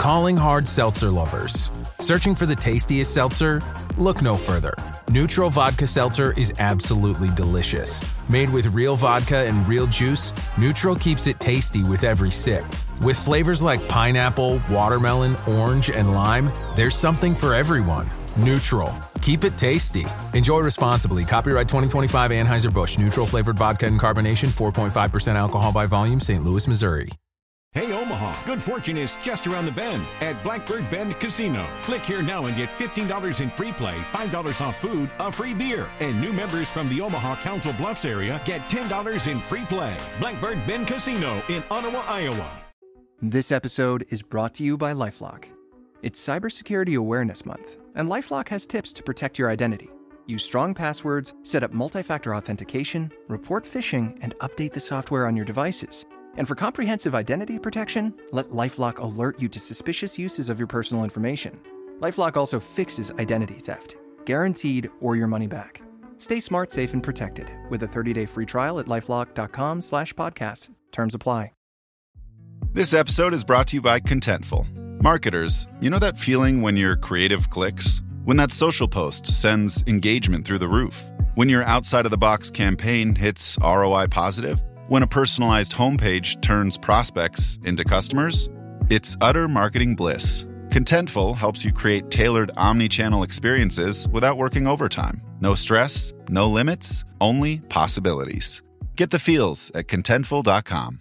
Calling hard seltzer lovers. Searching for the tastiest seltzer? Look no further. Neutral Vodka Seltzer is absolutely delicious. Made with real vodka and real juice, Neutral keeps it tasty with every sip. With flavors like pineapple, watermelon, orange, and lime, there's something for everyone. Neutral. Keep it tasty. Enjoy responsibly. Copyright 2025 Anheuser-Busch. Neutral flavored vodka and carbonation. 4.5% alcohol by volume. St. Louis, Missouri. Hey Omaha, good fortune is just around the bend at Blackbird Bend Casino. Click here now and get $15 in free play, $5 off food, a free beer. And new members from the Omaha Council Bluffs area get $10 in free play. Blackbird Bend Casino in Ottawa, Iowa. This episode is brought to you by LifeLock. It's Cybersecurity Awareness Month, and LifeLock has tips to protect your identity. Use strong passwords, set up multi-factor authentication, report phishing, and update the software on your devices. And for comprehensive identity protection, let LifeLock alert you to suspicious uses of your personal information. LifeLock also fixes identity theft, guaranteed or your money back. Stay smart, safe, and protected with a 30-day free trial at LifeLock.com/podcast. Terms apply. This episode is brought to you by Contentful. Marketers, you know that feeling when your creative clicks? When that social post sends engagement through the roof? When your outside-of-the-box campaign hits ROI positive? When a personalized homepage turns prospects into customers? It's utter marketing bliss. Contentful helps you create tailored omni-channel experiences without working overtime. No stress, no limits, only possibilities. Get the feels at Contentful.com.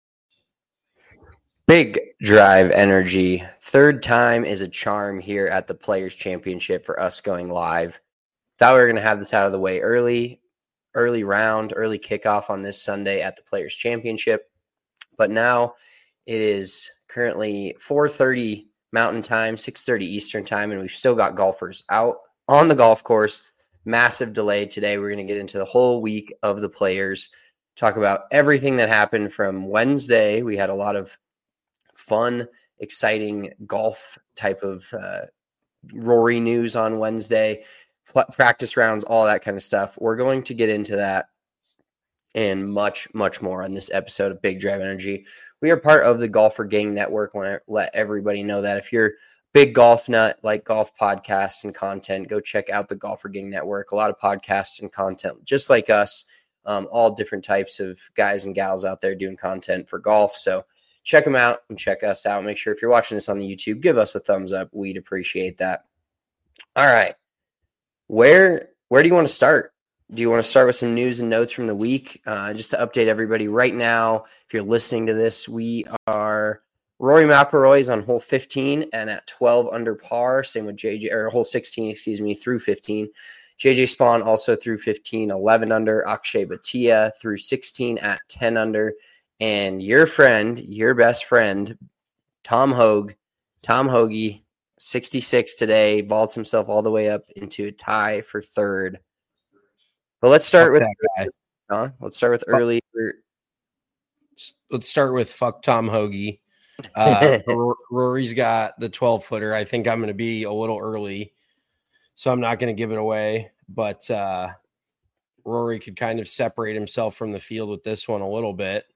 Big Drive Energy. Third time is a charm here at the Players Championship for us going live. Thought we were going to have this out of the way early kickoff on this Sunday at the Players Championship. But now it is currently 4:30 Mountain Time, 6:30 Eastern Time, and we've still got golfers out on the golf course. Massive delay today. We're going to get into the whole week of the Players, talk about everything that happened from Wednesday. We had a lot of fun, exciting golf type of Rory news on Wednesday. Practice rounds, all that kind of stuff. We're going to get into that and much, much more on this episode of Big Drive Energy. We are part of the Golfer Gang Network. I want to let everybody know that if you're a big golf nut, like golf podcasts and content, go check out the Golfer Gang Network. A lot of podcasts and content just like us, all different types of guys and gals out there doing content for golf. So check them out and check us out. Make sure if you're watching this on the YouTube, give us a thumbs up. We'd appreciate that. All right. Where do you want to start? Do you want to start with some news and notes from the week? Just to update everybody right now, if you're listening to this, Rory McIlroy is on hole 15 and at 12 under par. Same with hole 16, through 15. JJ Spawn also through 15, 11 under. Akshay Bhatia through 16 at 10 under. And your best friend, Tom Hoge, 66 today, vaults himself all the way up into a tie for third. But let's start with early. Let's start with fuck Tom Hoge. Rory's got the 12-footer. I think I'm going to be a little early, so I'm not going to give it away. But Rory could kind of separate himself from the field with this one a little bit.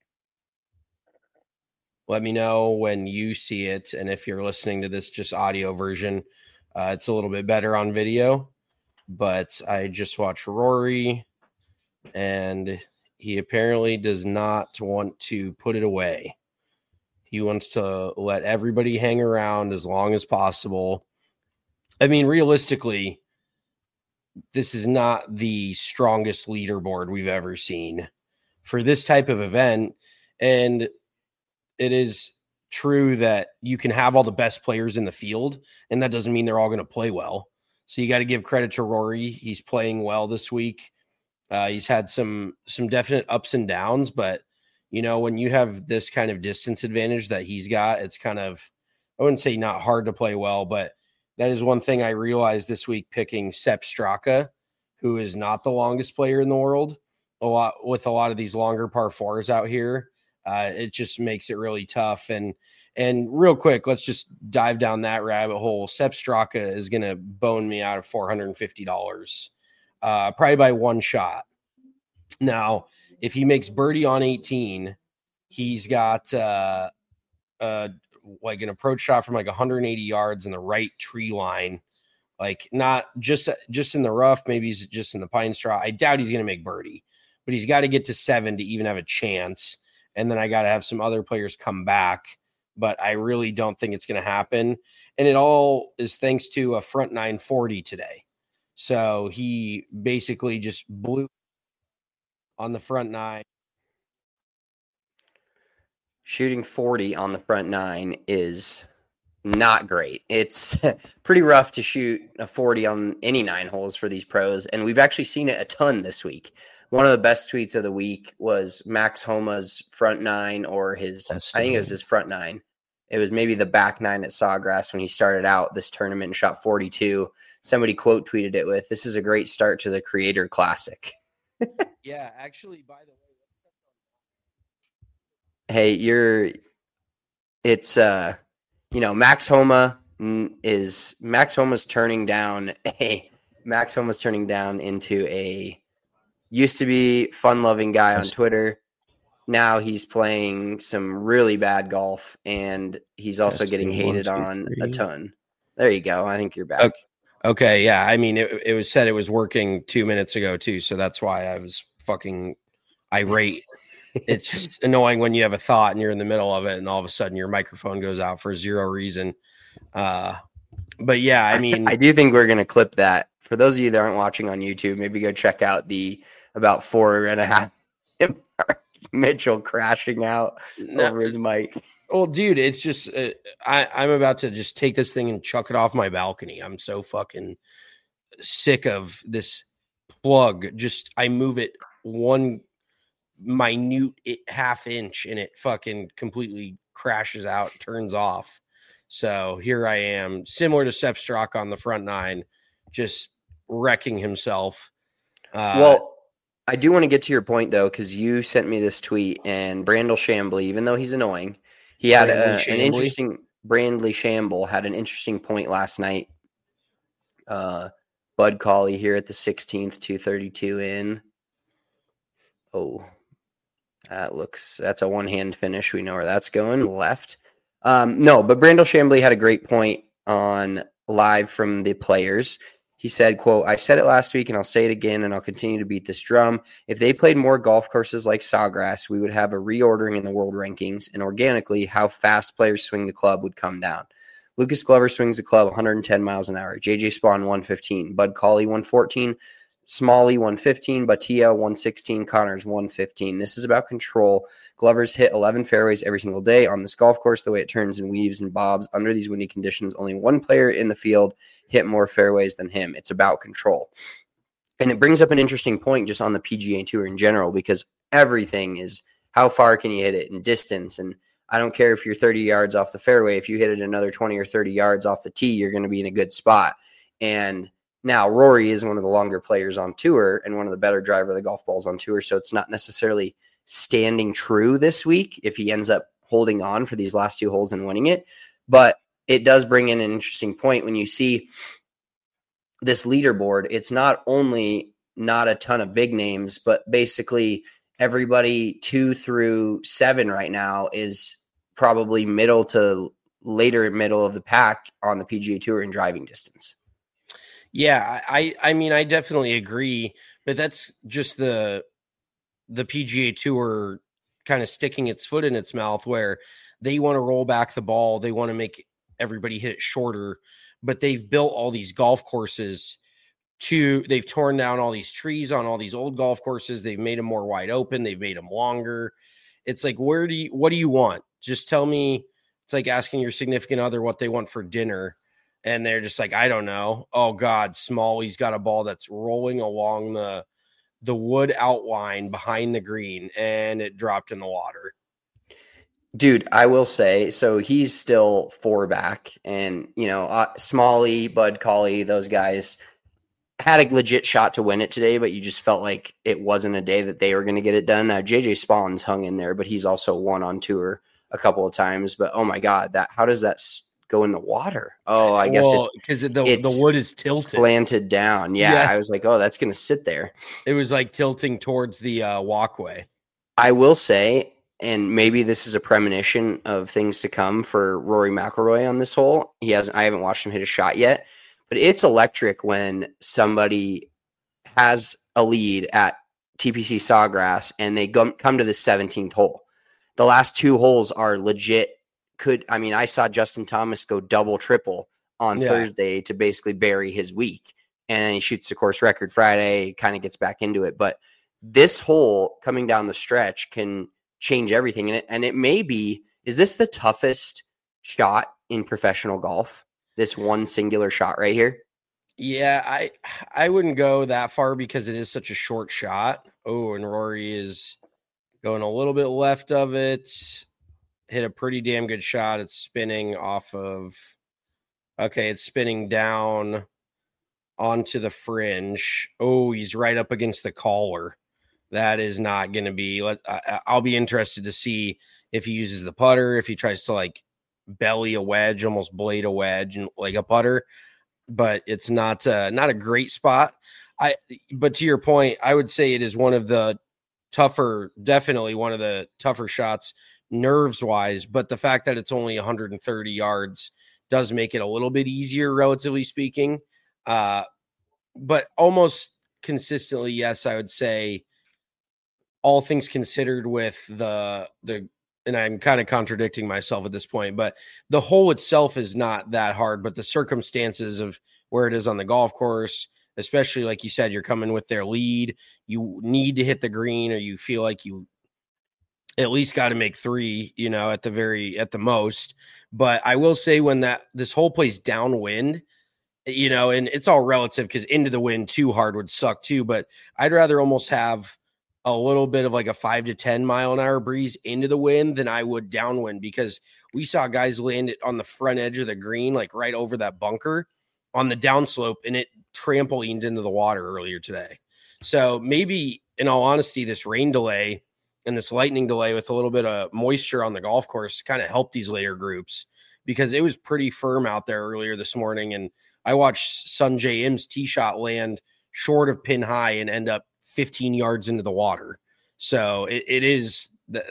Let me know when you see it. And if you're listening to this just audio version, it's a little bit better on video. But I just watched Rory, and he apparently does not want to put it away. He wants to let everybody hang around as long as possible. I mean, realistically, this is not the strongest leaderboard we've ever seen for this type of event. And it is true that you can have all the best players in the field, and that doesn't mean they're all going to play well. So you got to give credit to Rory. He's playing well this week. He's had some definite ups and downs, but you know, when you have this kind of distance advantage that he's got, it's kind of, I wouldn't say not hard to play well, but that is one thing I realized this week picking Sepp Straka, who is not the longest player in the world. With a lot of these longer par fours out here, it just makes it really tough. And real quick, let's just dive down that rabbit hole. Sepp Straka is going to bone me out of $450, probably by one shot. Now, if he makes birdie on 18, he's got like an approach shot from like 180 yards in the right tree line, like not just in the rough. Maybe he's just in the pine straw. I doubt he's going to make birdie, but he's got to get to 7 to even have a chance. And then I got to have some other players come back, but I really don't think it's going to happen. And it all is thanks to a front 940 today. So he basically just blew on the front 9. Shooting 40 on the front 9 is not great. It's pretty rough to shoot a 40 on any 9 holes for these pros, and we've actually seen it a ton this week. One of the best tweets of the week was Max Homa's front 9, or his, I think it was his front 9. It was maybe the back 9 at Sawgrass when he started out this tournament and shot 42. Somebody quote tweeted it with, "This is a great start to the Creator Classic." Yeah, actually, by the way, hey, Max Homa Homa's turning down into a used to be fun-loving guy on Twitter. Now he's playing some really bad golf, and he's also getting hated on a ton. There you go. I think you're back. Okay, yeah. I mean, it was said it was working 2 minutes ago too, so that's why I was fucking irate. It's just annoying when you have a thought and you're in the middle of it, and all of a sudden your microphone goes out for zero reason. But yeah, I mean, I do think we're going to clip that. For those of you that aren't watching on YouTube, maybe go check out the about 4.5 Mitchell crashing out over his mic. Well, dude, it's just I'm about to just take this thing and chuck it off my balcony. I'm so fucking sick of this plug. Just I move it one minute half inch and it fucking completely crashes out, turns off. So here I am, similar to Sepp Straka on the front 9, just wrecking himself. Well, I do want to get to your point, though, because you sent me this tweet, and Brandel Chambly, even though he's annoying, he had an interesting – Brandley Shamble had an interesting point last night. Bud Cauley here at the 16th, 232 in. Oh, that's a one-hand finish. We know where that's going, left. No, but Brandel Chambly had a great point on live from the players. He said, quote, "I said it last week and I'll say it again and I'll continue to beat this drum. If they played more golf courses like Sawgrass, we would have a reordering in the world rankings, and organically how fast players swing the club would come down. Lucas Glover swings the club 110 miles an hour. JJ Spawn 115, Bud Cauley 114, Smalley 115, Batia 116, Connors 115. This is about control. Glover's hit 11 fairways every single day on this golf course. The way it turns and weaves and bobs under these windy conditions, only one player in the field hit more fairways than him. It's about control." And it brings up an interesting point just on the PGA Tour in general, because everything is how far can you hit it in distance. And I don't care if you're 30 yards off the fairway. If you hit it another 20 or 30 yards off the tee, you're going to be in a good spot. And now, Rory is one of the longer players on tour and one of the better driver of the golf balls on tour, so it's not necessarily standing true this week if he ends up holding on for these last 2 holes and winning it. But it does bring in an interesting point when you see this leaderboard. It's not only not a ton of big names, but basically everybody 2 through 7 right now is probably middle to later middle of the pack on the PGA Tour in driving distance. Yeah, I mean, I definitely agree, but that's just the PGA Tour kind of sticking its foot in its mouth, where they want to roll back the ball. They want to make everybody hit it shorter, but they've built all these golf courses they've torn down all these trees on all these old golf courses. They've made them more wide open. They've made them longer. It's like, what do you want? Just tell me. It's like asking your significant other what they want for dinner. And they're just like, I don't know. Oh, God, Smalley's got a ball that's rolling along the wood outline behind the green, and it dropped in the water. Dude, I will say, so he's still 4 back. And, Smalley, Bud Cauley, those guys had a legit shot to win it today, but you just felt like it wasn't a day that they were going to get it done. Now, JJ Spawn's hung in there, but he's also won on tour a couple of times. But, oh, my God, how does that go in the water? Oh, I guess because the wood is tilted, slanted down. Yeah, I was like, oh, that's going to sit there. It was like tilting towards the walkway. I will say, and maybe this is a premonition of things to come for Rory McIlroy on this hole. I haven't watched him hit a shot yet, but it's electric when somebody has a lead at TPC Sawgrass and they come to the 17th hole. The last 2 holes are legit. I saw Justin Thomas go double, triple on Thursday to basically bury his week. And then he shoots the course record Friday, kind of gets back into it. But this hole coming down the stretch can change everything. And it may be, is this the toughest shot in professional golf? This one singular shot right here? Yeah, I wouldn't go that far because it is such a short shot. Oh, and Rory is going a little bit left of it. Hit a pretty damn good shot. It's spinning it's spinning down onto the fringe. Oh, he's right up against the collar. That is not going to be. I'll be interested to see if he uses the putter, if he tries to like belly a wedge, almost blade a wedge, and like a putter. But it's not a great spot. But to your point, I would say it is one of the definitely one of the tougher shots nerves wise. But the fact that it's only 130 yards does make it a little bit easier, relatively speaking. But almost consistently, yes, I would say, all things considered, with the and I'm kind of contradicting myself at this point, but the hole itself is not that hard, but the circumstances of where it is on the golf course, especially like you said, you're coming with their lead, you need to hit the green, or you feel like you at least got to make 3, at the most. But I will say, when this hole plays downwind, and it's all relative because into the wind too hard would suck too, but I'd rather almost have a little bit of like a 5 to 10 mile an hour breeze into the wind than I would downwind, because we saw guys land it on the front edge of the green, like right over that bunker on the downslope, and it trampolined into the water earlier today. So maybe, in all honesty, this rain delay and this lightning delay with a little bit of moisture on the golf course kind of helped these later groups, because it was pretty firm out there earlier this morning. And I watched Sungjae Im's tee shot land short of pin high and end up 15 yards into the water. So it's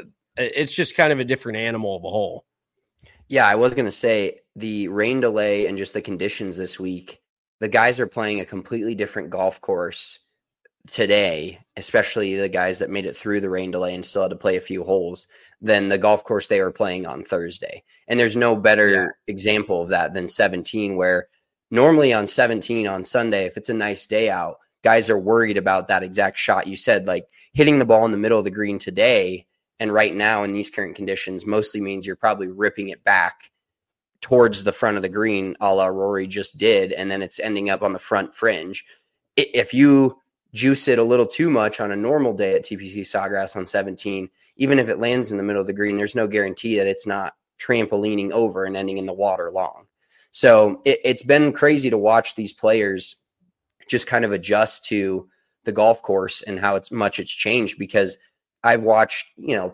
just kind of a different animal of a hole. Yeah, I was going to say, the rain delay and just the conditions this week, the guys are playing a completely different golf course today, especially the guys that made it through the rain delay and still had to play a few holes, than the golf course they were playing on Thursday. And there's no better example of that than 17, where normally on 17 on Sunday, if it's a nice day out, guys are worried about that exact shot you said, like hitting the ball in the middle of the green today. And right now in these current conditions, mostly means you're probably ripping it back towards the front of the green, a la Rory just did. And then it's ending up on the front fringe. If you juice it a little too much on a normal day at TPC Sawgrass on 17, even if it lands in the middle of the green, there's no guarantee that it's not trampolining over and ending in the water long. So it's been crazy to watch these players just kind of adjust to the golf course and how much it's changed, because I've watched,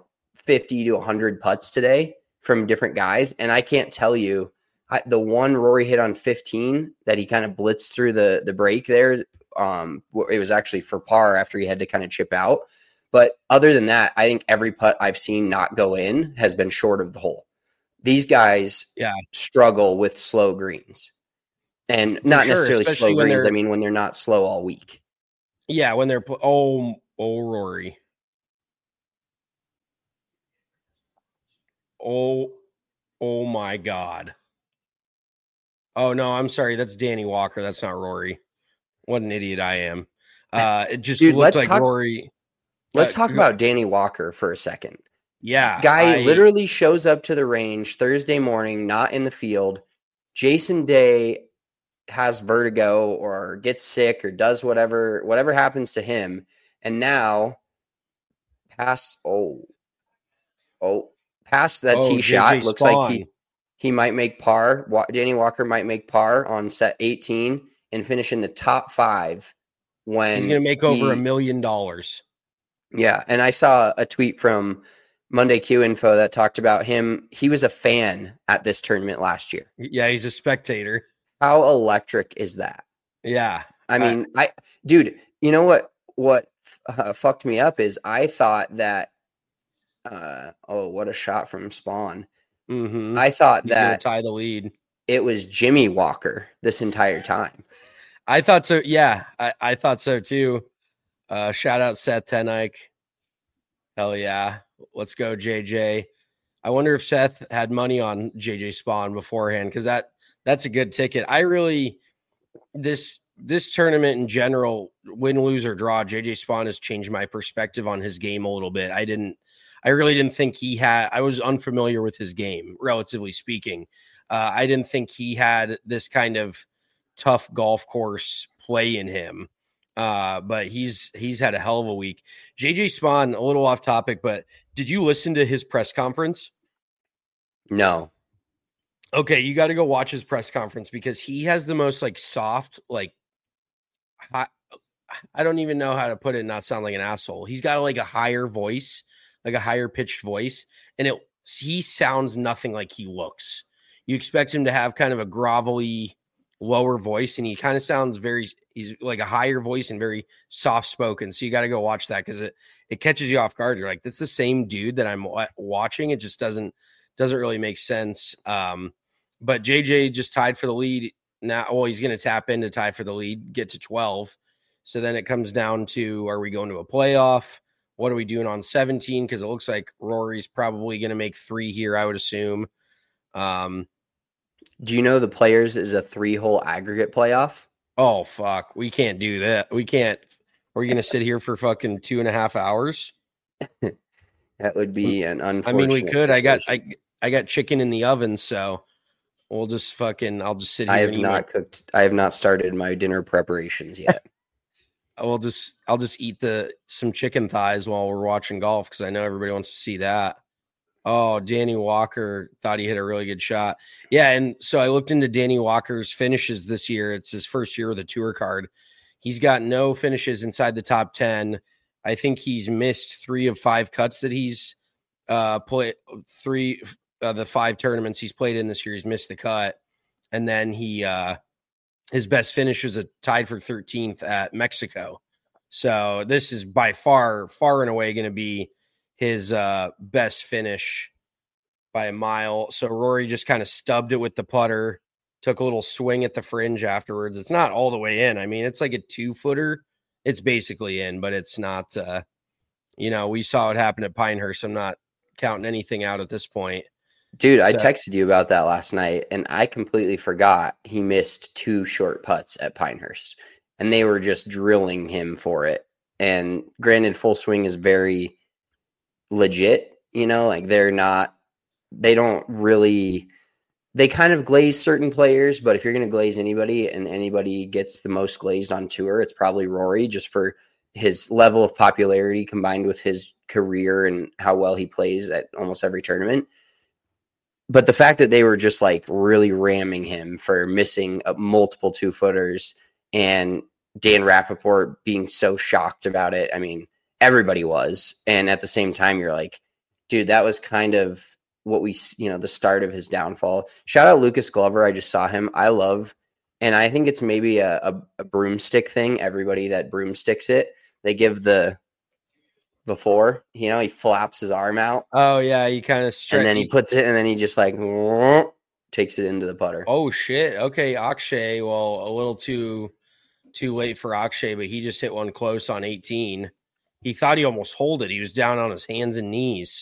50 to 100 putts today from different guys. And I can't tell you, the one Rory hit on 15 that he kind of blitzed through the break there. It was actually for par after he had to kind of chip out. But other than that, I think every putt I've seen not go in has been short of the hole. These guys struggle with slow greens. And not necessarily slow greens. I mean, when they're not slow all week. Yeah, when they're Rory. Oh my God. Oh no, I'm sorry. That's Danny Walker. That's not Rory. What an idiot I am. It just looked like Rory. Let's talk about Danny Walker for a second. Yeah. Guy literally shows up to the range Thursday morning, not in the field. Jason Day has vertigo or gets sick or does whatever happens to him. And now past that tee shot, looks like he might make par. Danny Walker might make par on set 18 and finish in the top 5 when he's going to make over $1 million. Yeah. And I saw a tweet from Monday Q Info that talked about him. He was a fan at this tournament last year. Yeah. He's a spectator. How electric is that? Yeah. I mean, dude, you know what fucked me up is I thought that What a shot from Spawn. Mm-hmm. I thought He's gonna that tie the lead. it was Jimmy Walker this entire time. I thought so. Yeah, I thought so too. Shout out Seth Tenike. Hell yeah. Let's go, JJ. I wonder if Seth had money on JJ Spawn beforehand, because that's a good ticket. I really this tournament in general, win, lose, or draw, JJ Spawn has changed my perspective on his game a little bit. I really didn't think I was unfamiliar with his game, relatively speaking. I didn't think he had this kind of tough golf course play in him. But he's had a hell of a week. JJ Spawn, a little off topic, but did you listen to his press conference? No. Okay, you got to go watch his press conference, because he has the most like soft, like I don't even know how to put it, not sound like an asshole. He's got like a higher voice, like a higher pitched voice, and he sounds nothing like he looks. You expect him to have kind of a grovelly, lower voice, and he kind of sounds he's like a higher voice and very soft spoken. So you got to go watch that, because it catches you off guard. You're like, that's the same dude that I'm watching. It just doesn't really make sense. But JJ just tied for the lead now. Well, he's going to tap in to tie for the lead, get to 12. So then it comes down to, are we going to a playoff? What are we doing on 17? Because it looks like Rory's probably going to make 3 here, I would assume. Do you know the Players is a 3-hole aggregate playoff? Oh, fuck. We can't do that. We can't. We're going to sit here for fucking 2.5 hours. That would be an unfortunate. I mean, we could. Situation. I got chicken in the oven, so we'll just I'll just sit here. I have not started my dinner preparations yet. I'll just eat some chicken thighs while we're watching golf, because I know everybody wants to see that. Oh, Danny Walker thought he hit a really good shot. Yeah, and so I looked into Danny Walker's finishes this year. It's his first year with a tour card. He's got no finishes inside the top 10. I think he's missed 3 of 5 cuts that he's played. 3 of the 5 tournaments he's played in this year, he's missed the cut. And then his best finish is tied for 13th at Mexico. So this is by far and away going to be his best finish by a mile. So Rory just kind of stubbed it with the putter, took a little swing at the fringe afterwards. It's not all the way in. I mean, it's like a 2-footer. It's basically in, but it's not, we saw what happened at Pinehurst. I'm not counting anything out at this point. Dude, I texted you about that last night, and I completely forgot he missed 2 short putts at Pinehurst, and they were just drilling him for it. And granted, full swing is very legit, like they kind of glaze certain players, but if you're going to glaze anybody and anybody gets the most glazed on tour, it's probably Rory, just for his level of popularity combined with his career and how well he plays at almost every tournament. But the fact that they were just like really ramming him for missing multiple 2-footers, and Dan Rappaport being so shocked about it. I mean, everybody was. And at the same time, you're like, dude, that was kind of what the start of his downfall. Shout out Lucas Glover. I just saw him. And I think it's maybe a broomstick thing. Everybody that broomsticks it, they give before, he flaps his arm out. Oh yeah, he kind of and then he puts it, and then he just like takes it into the putter. Oh shit. Okay, Akshay. Well, a little too late for Akshay, but he just hit one close on 18. He thought he almost holed it. He was down on his hands and knees,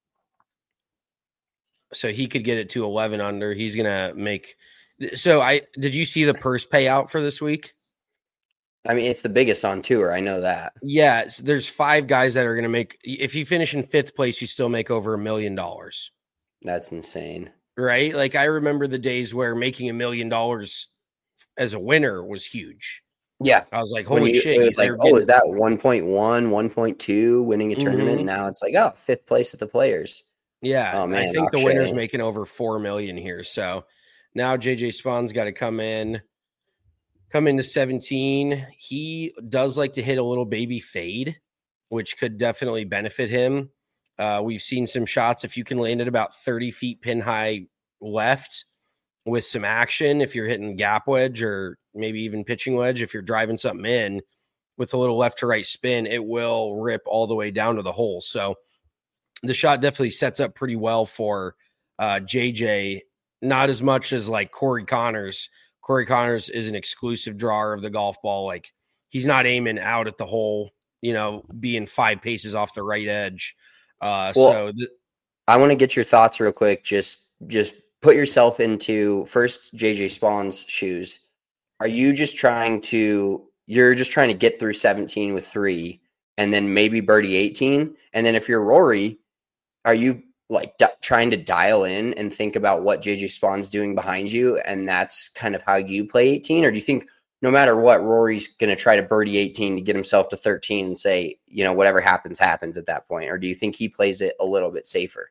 so he could get it to 11 under. He's gonna make. So did you see the purse payout for this week? I mean, it's the biggest on tour. I know that. Yeah, there's 5 guys that are going to make. If you finish in 5th place, you still make over $1 million. That's insane, right? Like I remember the days where making $1 million as a winner was huge. Yeah, I was like, holy shit! It was like, is that 1.1, 1.2 winning a tournament? Now it's like, 5th place at the Players. Yeah, oh man, I think the winner's making over $4 million here. So now JJ Spawn's got to come into 17. He does like to hit a little baby fade, which could definitely benefit him. We've seen some shots. If you can land it about 30 feet pin high left with some action, if you're hitting gap wedge or maybe even pitching wedge, if you're driving something in with a little left to right spin, it will rip all the way down to the hole. So the shot definitely sets up pretty well for JJ, not as much as like Corey Connors. Corey Connors is an exclusive drawer of the golf ball. Like, he's not aiming out at the hole, being 5 paces off the right edge. I want to get your thoughts real quick. Just put yourself into first JJ Spahn's shoes. Are you just trying to get through 17 with 3 and then maybe birdie 18? And then if you're Rory, are you like trying to dial in and think about what JJ Spahn's doing behind you, and that's kind of how you play 18? Or do you think no matter what, Rory's going to try to birdie 18 to get himself to 13 and say, whatever happens at that point? Or do you think he plays it a little bit safer?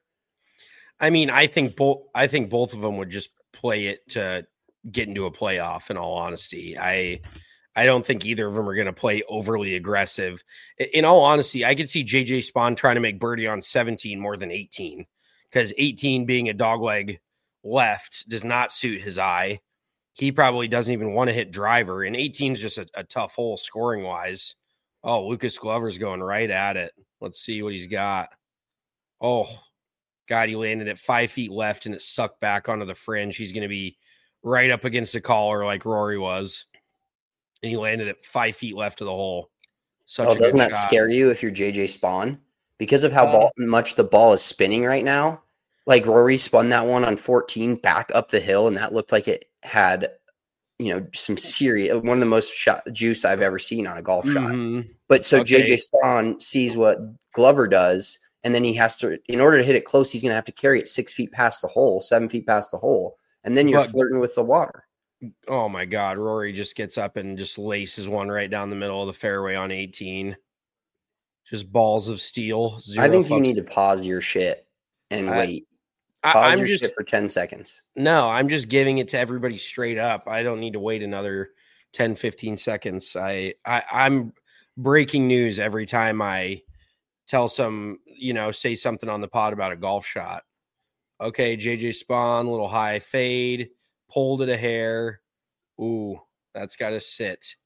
I mean, I think both of them would just play it to get into a playoff, in all honesty. I don't think either of them are going to play overly aggressive. In all honesty, I could see JJ Spahn trying to make birdie on 17 more than 18, because 18 being a dogleg left does not suit his eye. He probably doesn't even want to hit driver, and 18 is just a tough hole scoring wise. Oh, Lucas Glover's going right at it. Let's see what he's got. Oh, God, he landed at 5 feet left, and it sucked back onto the fringe. He's going to be right up against the collar like Rory was. And he landed at 5 feet left of the hole. Doesn't that scare you if you're JJ Spahn? Because of how much the ball is spinning right now? Like, Rory spun that one on 14 back up the hill, and that looked like it had, some serious, one of the most juice I've ever seen on a golf shot. But so JJ Spahn sees what Glover does, and then he has to, in order to hit it close, he's going to have to carry it 6 feet past the hole, 7 feet past the hole, and then you're flirting with the water. Oh my God, Rory just gets up and just laces one right down the middle of the fairway on 18. Just balls of steel. I think you need to pause your shit and wait. Pause your shit for 10 seconds. No, I'm just giving it to everybody straight up. I don't need to wait another 10, 15 seconds. I'm breaking news every time I tell say something on the pod about a golf shot. Okay, JJ Spahn, little high fade. Pulled it a hair. Ooh, that's got to sit.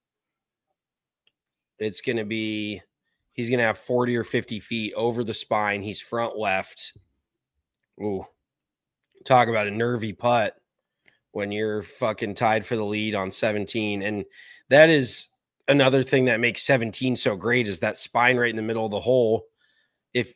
He's going to have 40 or 50 feet over the spine. He's front left. Ooh, talk about a nervy putt when you're fucking tied for the lead on 17. And that is another thing that makes 17 so great, is that spine right in the middle of the hole. If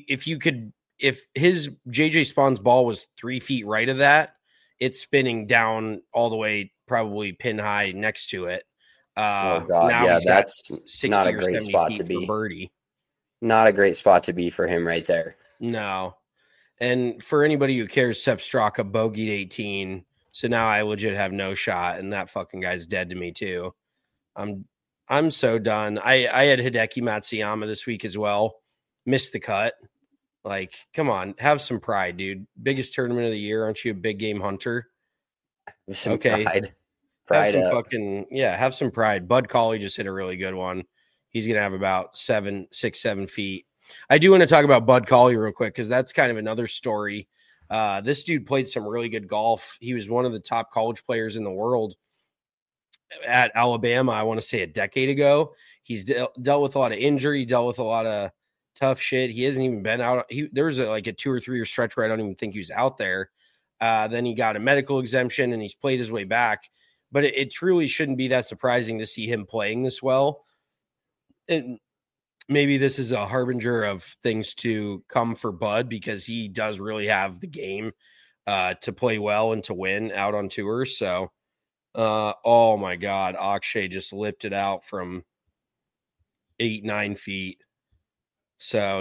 his JJ Spahn's ball was 3 feet right of that, it's spinning down all the way, probably pin high next to it. Oh God, yeah, that's not a great spot to be. Birdie. Not a great spot to be for him right there. No. And for anybody who cares, Sepp Straka bogeyed 18. So now I legit have no shot, and that fucking guy's dead to me too. I'm so done. I had Hideki Matsuyama this week as well. Missed the cut. Like, come on, have some pride, dude. Biggest tournament of the year. Aren't you a big game hunter? Some pride. Have some pride. Bud Cauley just hit a really good one. He's going to have about 7 feet. I do want to talk about Bud Cauley real quick, because that's kind of another story. This dude played some really good golf. He was one of the top college players in the world at Alabama, I want to say a decade ago. He's dealt with a lot of injury, dealt with a lot of tough shit. He hasn't even been out. There was a 2 or 3 year stretch where I don't even think he was out there. Then he got a medical exemption and he's played his way back. But it truly shouldn't be that surprising to see him playing this well. And maybe this is a harbinger of things to come for Bud, because he does really have the game to play well and to win out on tour. So, oh my God, Akshay just lipped it out from 8-9 feet. So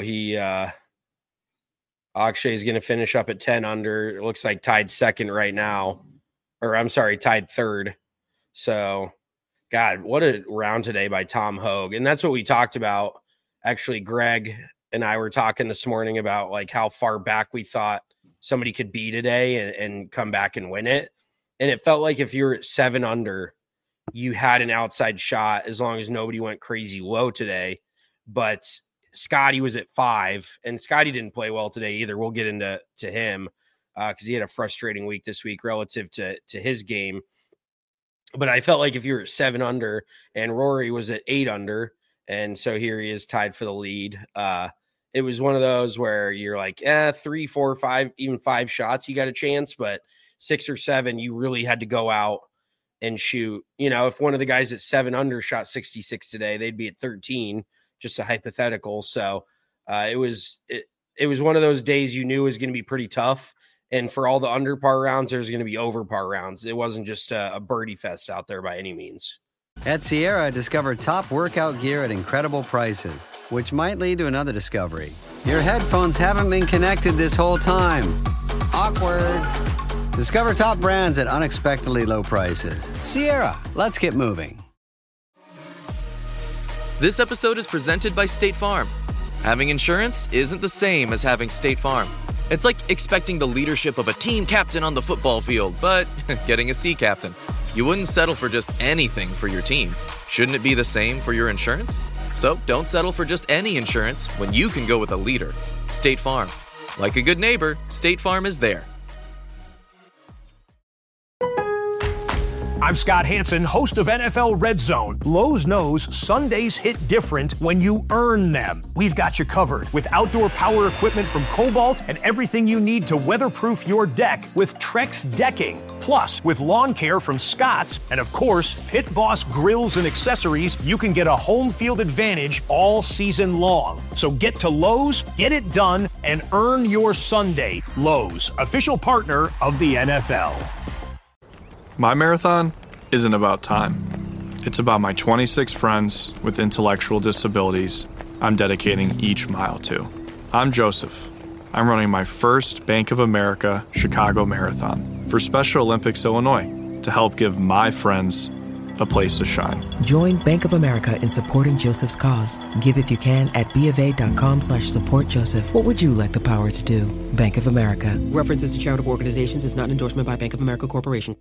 Akshay is going to finish up at 10 under. It looks like tied second right now. Or I'm sorry, tied third. So, God, what a round today by Tom Hoge. And that's what we talked about. Actually, Greg and I were talking this morning about like how far back we thought somebody could be today and come back and win it. And it felt like if you were at 7 under, you had an outside shot as long as nobody went crazy low today. But Scotty was at 5, and Scotty didn't play well today either. We'll get into him because he had a frustrating week this week relative to his game. But I felt like if you were at 7 under and Rory was at 8 under, and so here he is tied for the lead. it was one of those where you're like, 3, 4, 5, even 5 shots, you got a chance, but 6 or 7, you really had to go out and shoot. You know, if one of the guys at 7 under shot 66 today, they'd be at 13, just a hypothetical. So it was one of those days you knew was going to be pretty tough. And for all the under par rounds, there's going to be over par rounds. It wasn't just a birdie fest out there by any means. At Sierra, discover top workout gear at incredible prices, which might lead to another discovery. Your headphones haven't been connected this whole time. Awkward. Discover top brands at unexpectedly low prices. Sierra, let's get moving. This episode is presented by State Farm. Having insurance isn't the same as having State Farm. It's like expecting the leadership of a team captain on the football field, but getting a sea captain. You wouldn't settle for just anything for your team. Shouldn't it be the same for your insurance? So don't settle for just any insurance when you can go with a leader. State Farm. Like a good neighbor, State Farm is there. I'm Scott Hansen, host of NFL Red Zone. Lowe's knows Sundays hit different when you earn them. We've got you covered with outdoor power equipment from Cobalt and everything you need to weatherproof your deck with Trex decking. Plus, with lawn care from Scott's and, of course, Pit Boss grills and accessories, you can get a home field advantage all season long. So get to Lowe's, get it done, and earn your Sunday. Lowe's, official partner of the NFL. My marathon isn't about time. It's about my 26 friends with intellectual disabilities I'm dedicating each mile to. I'm Joseph. I'm running my first Bank of America Chicago Marathon for Special Olympics Illinois to help give my friends a place to shine. Join Bank of America in supporting Joseph's cause. Give if you can at BofA.com/supportjoseph. What would you like the power to do? Bank of America. References to charitable organizations is not an endorsement by Bank of America Corporation.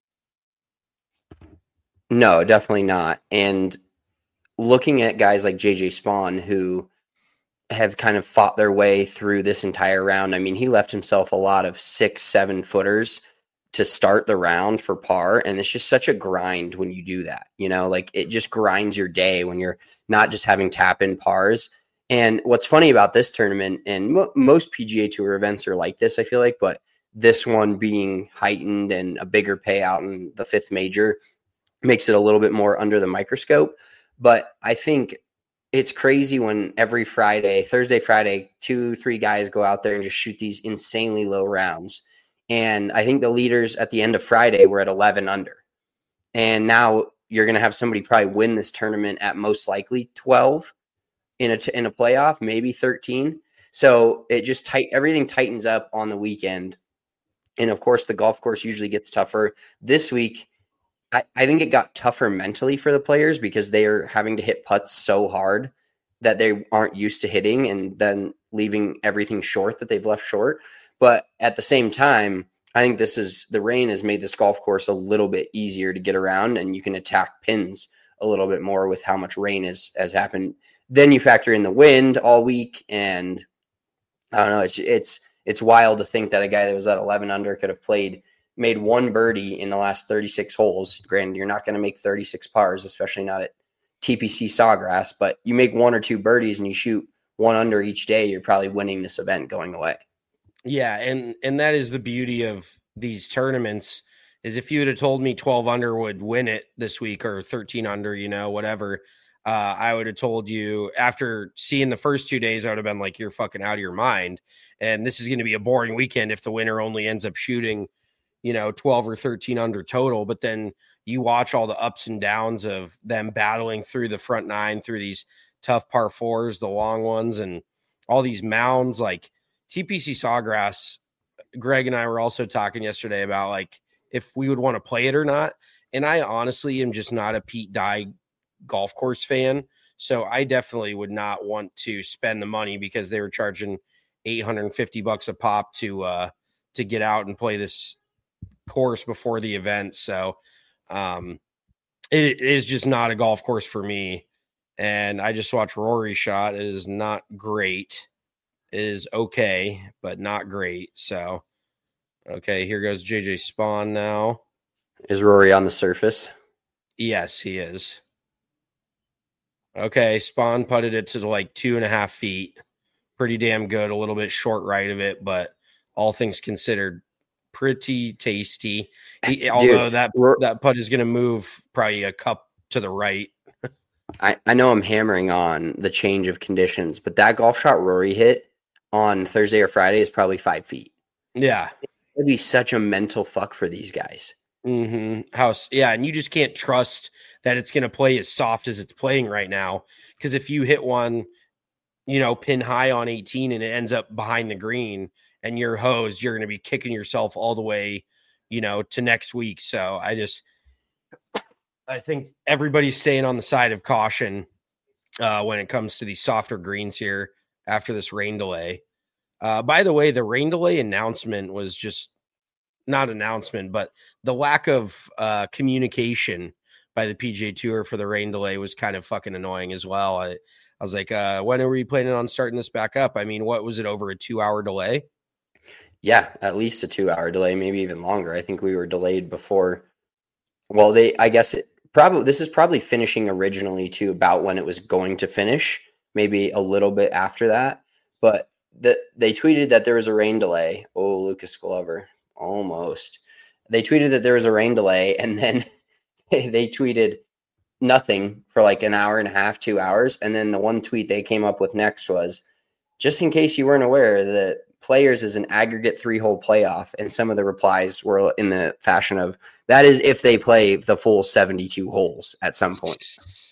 No, definitely not. And looking at guys like JJ Spawn, who have kind of fought their way through this entire round. I mean, he left himself a lot of 6-7 footers to start the round for par. And it's just such a grind when you do that, you know, like it just grinds your day when you're not just having tap in pars. And what's funny about this tournament, and most PGA Tour events are like this, I feel like, but this one being heightened and a bigger payout in the 5th major makes it a little bit more under the microscope. But I think it's crazy when every Thursday, Friday, 2-3 guys go out there and just shoot these insanely low rounds. And I think the leaders at the end of Friday were at 11 under. And now you're going to have somebody probably win this tournament at most likely 12 in a playoff, maybe 13. So it just everything tightens up on the weekend. And of course, the golf course usually gets tougher. This week, I think it got tougher mentally for the players because they are having to hit putts so hard that they aren't used to hitting and then leaving everything short that they've left short. But at the same time, I think the rain has made this golf course a little bit easier to get around, and you can attack pins a little bit more with how much rain has happened. Then you factor in the wind all week, and I don't know, it's wild to think that a guy that was at 11 under could have made one birdie in the last 36 holes. Granted, you're not going to make 36 pars, especially not at TPC Sawgrass, but you make 1 or 2 birdies and you shoot 1 under each day, you're probably winning this event going away. Yeah, and that is the beauty of these tournaments, is if you would have told me 12 under would win it this week or 13 under, you know, whatever, I would have told you after seeing the first 2 days, I would have been like, you're fucking out of your mind. And this is going to be a boring weekend if the winner only ends up shooting, 12 or 13 under total. But then you watch all the ups and downs of them battling through the front 9, through these tough par 4s, the long ones, and all these mounds like TPC Sawgrass. Greg and I were also talking yesterday about like if we would want to play it or not. And I honestly am just not a Pete Dye golf course fan. So I definitely would not want to spend the money because they were charging $850 a pop to get out and play this course before the event. So it is just not a golf course for me. And I just watched Rory shot. It is not great. It is okay, but not great. So, okay, here goes JJ Spawn now. Is Rory on the surface? Yes, he is. Okay, Spawn putted it to like 2.5 feet. pretty damn good, a little bit short right of it, but all things considered, pretty tasty. Although that putt is going to move probably a cup to the right. I know I'm hammering on the change of conditions, but that golf shot Rory hit on Thursday or Friday is probably 5 feet. Yeah. It'd be such a mental fuck for these guys. And you just can't trust that it's going to play as soft as it's playing right now. Because if you hit one, pin high on 18 and it ends up behind the green and you're hosed, you're going to be kicking yourself all the way, to next week. So I think everybody's staying on the side of caution when it comes to these softer greens here after this rain delay. By the way, the rain delay announcement was just not announcement, but the lack of communication by the PGA Tour for the rain delay was kind of fucking annoying as well. I was like, when are we planning on starting this back up? I mean, what was it, over a 2-hour delay? Yeah, at least a 2-hour delay, maybe even longer. I think we were delayed before. Well, this is probably finishing originally to about when it was going to finish, maybe a little bit after that. But they tweeted that there was a rain delay. Oh, Lucas Glover, almost. They tweeted that there was a rain delay, and then they tweeted nothing for like an hour and a half, 2 hours. And then the one tweet they came up with next was, just in case you weren't aware, that Players is an aggregate 3-hole playoff. And some of the replies were in the fashion of, that is if they play the full 72 holes at some point.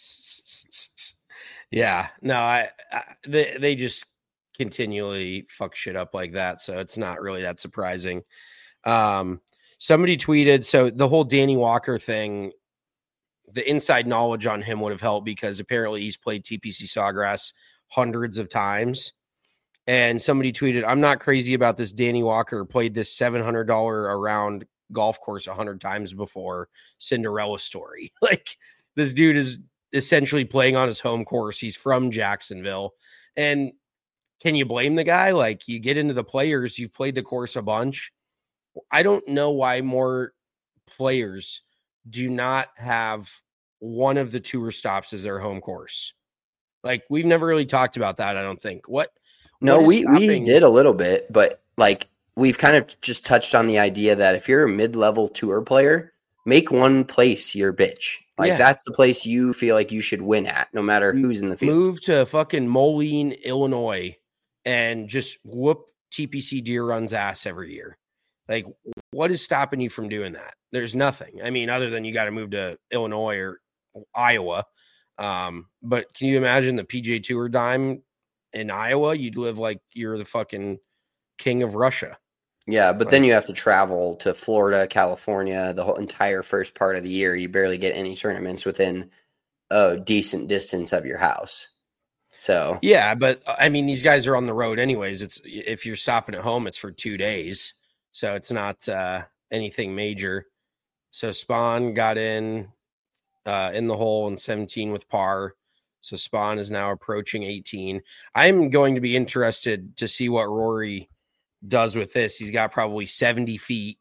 Yeah, no, they just continually fuck shit up like that. So it's not really that surprising. Somebody tweeted, so the whole Danny Walker thing, the inside knowledge on him would have helped because apparently he's played TPC Sawgrass hundreds of times. And somebody tweeted, I'm not crazy about this. Danny Walker played this $700 a round golf course 100 times before. Cinderella story. Like, this dude is essentially playing on his home course. He's from Jacksonville. And can you blame the guy? Like, you get into the Players, you've played the course a bunch. I don't know why more players do not have one of the tour stops as their home course. Like, we've never really talked about that, I don't think. No, we did a little bit, but like we've kind of just touched on the idea that if you're a mid-level tour player, make one place your bitch. Like that's the place you feel like you should win at, no matter who's in the field. Move to fucking Moline, Illinois, and just whoop TPC Deer Run's ass every year. Like, what is stopping you from doing that? There's nothing. I mean, other than you got to move to Illinois or Iowa. But can you imagine the PGA Tour dime in Iowa? You'd live like you're the fucking king of Russia. Yeah, but then you have to travel to Florida, California, the whole entire first part of the year. You barely get any tournaments within a decent distance of your house. So yeah, but I mean, these guys are on the road anyways. It's if you're stopping at home, it's for 2 days, so it's not anything major. So Spawn got in the hole in 17 with par. So Spawn is now approaching 18. I'm going to be interested to see what Rory does with this. He's got probably 70 feet.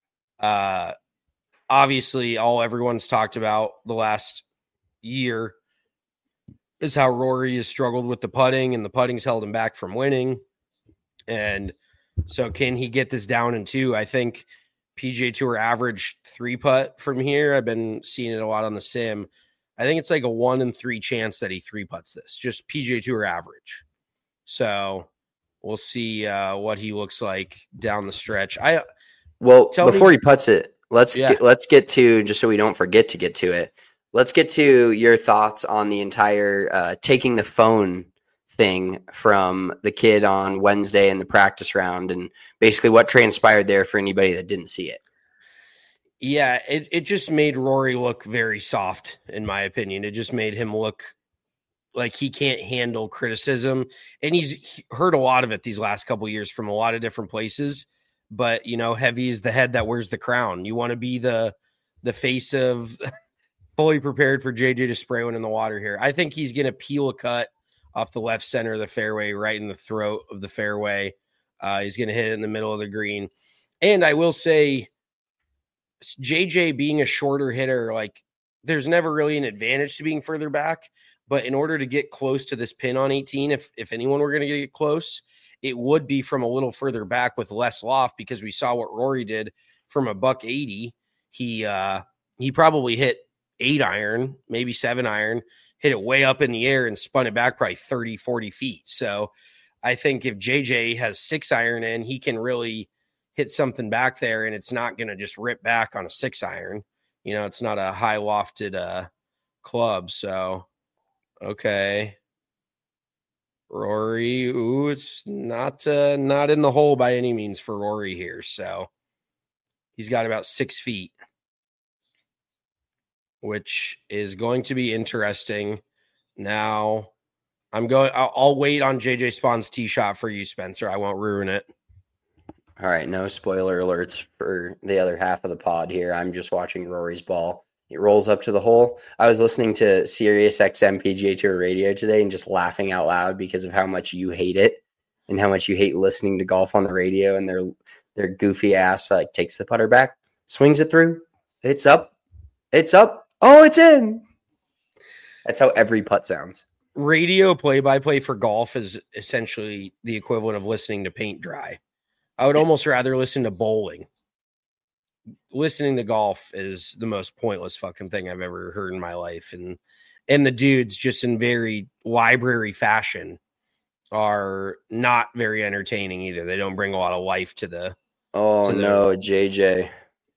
Obviously, all everyone's talked about the last year is how Rory has struggled with the putting, and the putting's held him back from winning. And so can he get this down in 2? I think PGA Tour average 3-putt from here. I've been seeing it a lot on the sim. I think it's like a 1 in 3 chance that he 3-putts this, just PGA Tour average. So we'll see what he looks like down the stretch. Before he putts it, let's get to, just so we don't forget to get to it. Let's get to your thoughts on the entire taking the phone thing from the kid on Wednesday in the practice round, and basically what transpired there for anybody that didn't see it. Yeah, it just made Rory look very soft, in my opinion. It just made him look like he can't handle criticism. And he's heard a lot of it these last couple of years from a lot of different places. But, heavy is the head that wears the crown. You want to be the face of fully prepared for JJ to spray one in the water here. I think he's going to peel a cut off the left center of the fairway, right in the throat of the fairway. He's going to hit it in the middle of the green. And I will say, JJ being a shorter hitter, like there's never really an advantage to being further back, But in order to get close to this pin on 18, if anyone were going to get close, it would be from a little further back with less loft, because we saw what Rory did from a $180. He probably hit 8 iron, maybe 7 iron, hit it way up in the air and spun it back probably 30, 40 feet. So I think if JJ has 6 iron in, he can really hit something back there, and it's not going to just rip back on a 6 iron. You know, it's not a high lofted club. So, okay. Rory, ooh, it's not in the hole by any means for Rory here. So he's got about 6 feet, which is going to be interesting. Now I'll wait on JJ Spawn's tee shot for you, Spencer. I won't ruin it. All right, no spoiler alerts for the other half of the pod here. I'm just watching Rory's ball. It rolls up to the hole. I was listening to Sirius XM PGA Tour radio today and just laughing out loud because of how much you hate it and how much you hate listening to golf on the radio, and their goofy ass like takes the putter back, swings it through. It's up. It's up. Oh, it's in. That's how every putt sounds. Radio play-by-play for golf is essentially the equivalent of listening to paint dry. I would almost rather listen to bowling. Listening to golf is the most pointless fucking thing I've ever heard in my life. And the dudes, just in very library fashion, are not very entertaining either. They don't bring a lot of life to the. Oh, no, JJ.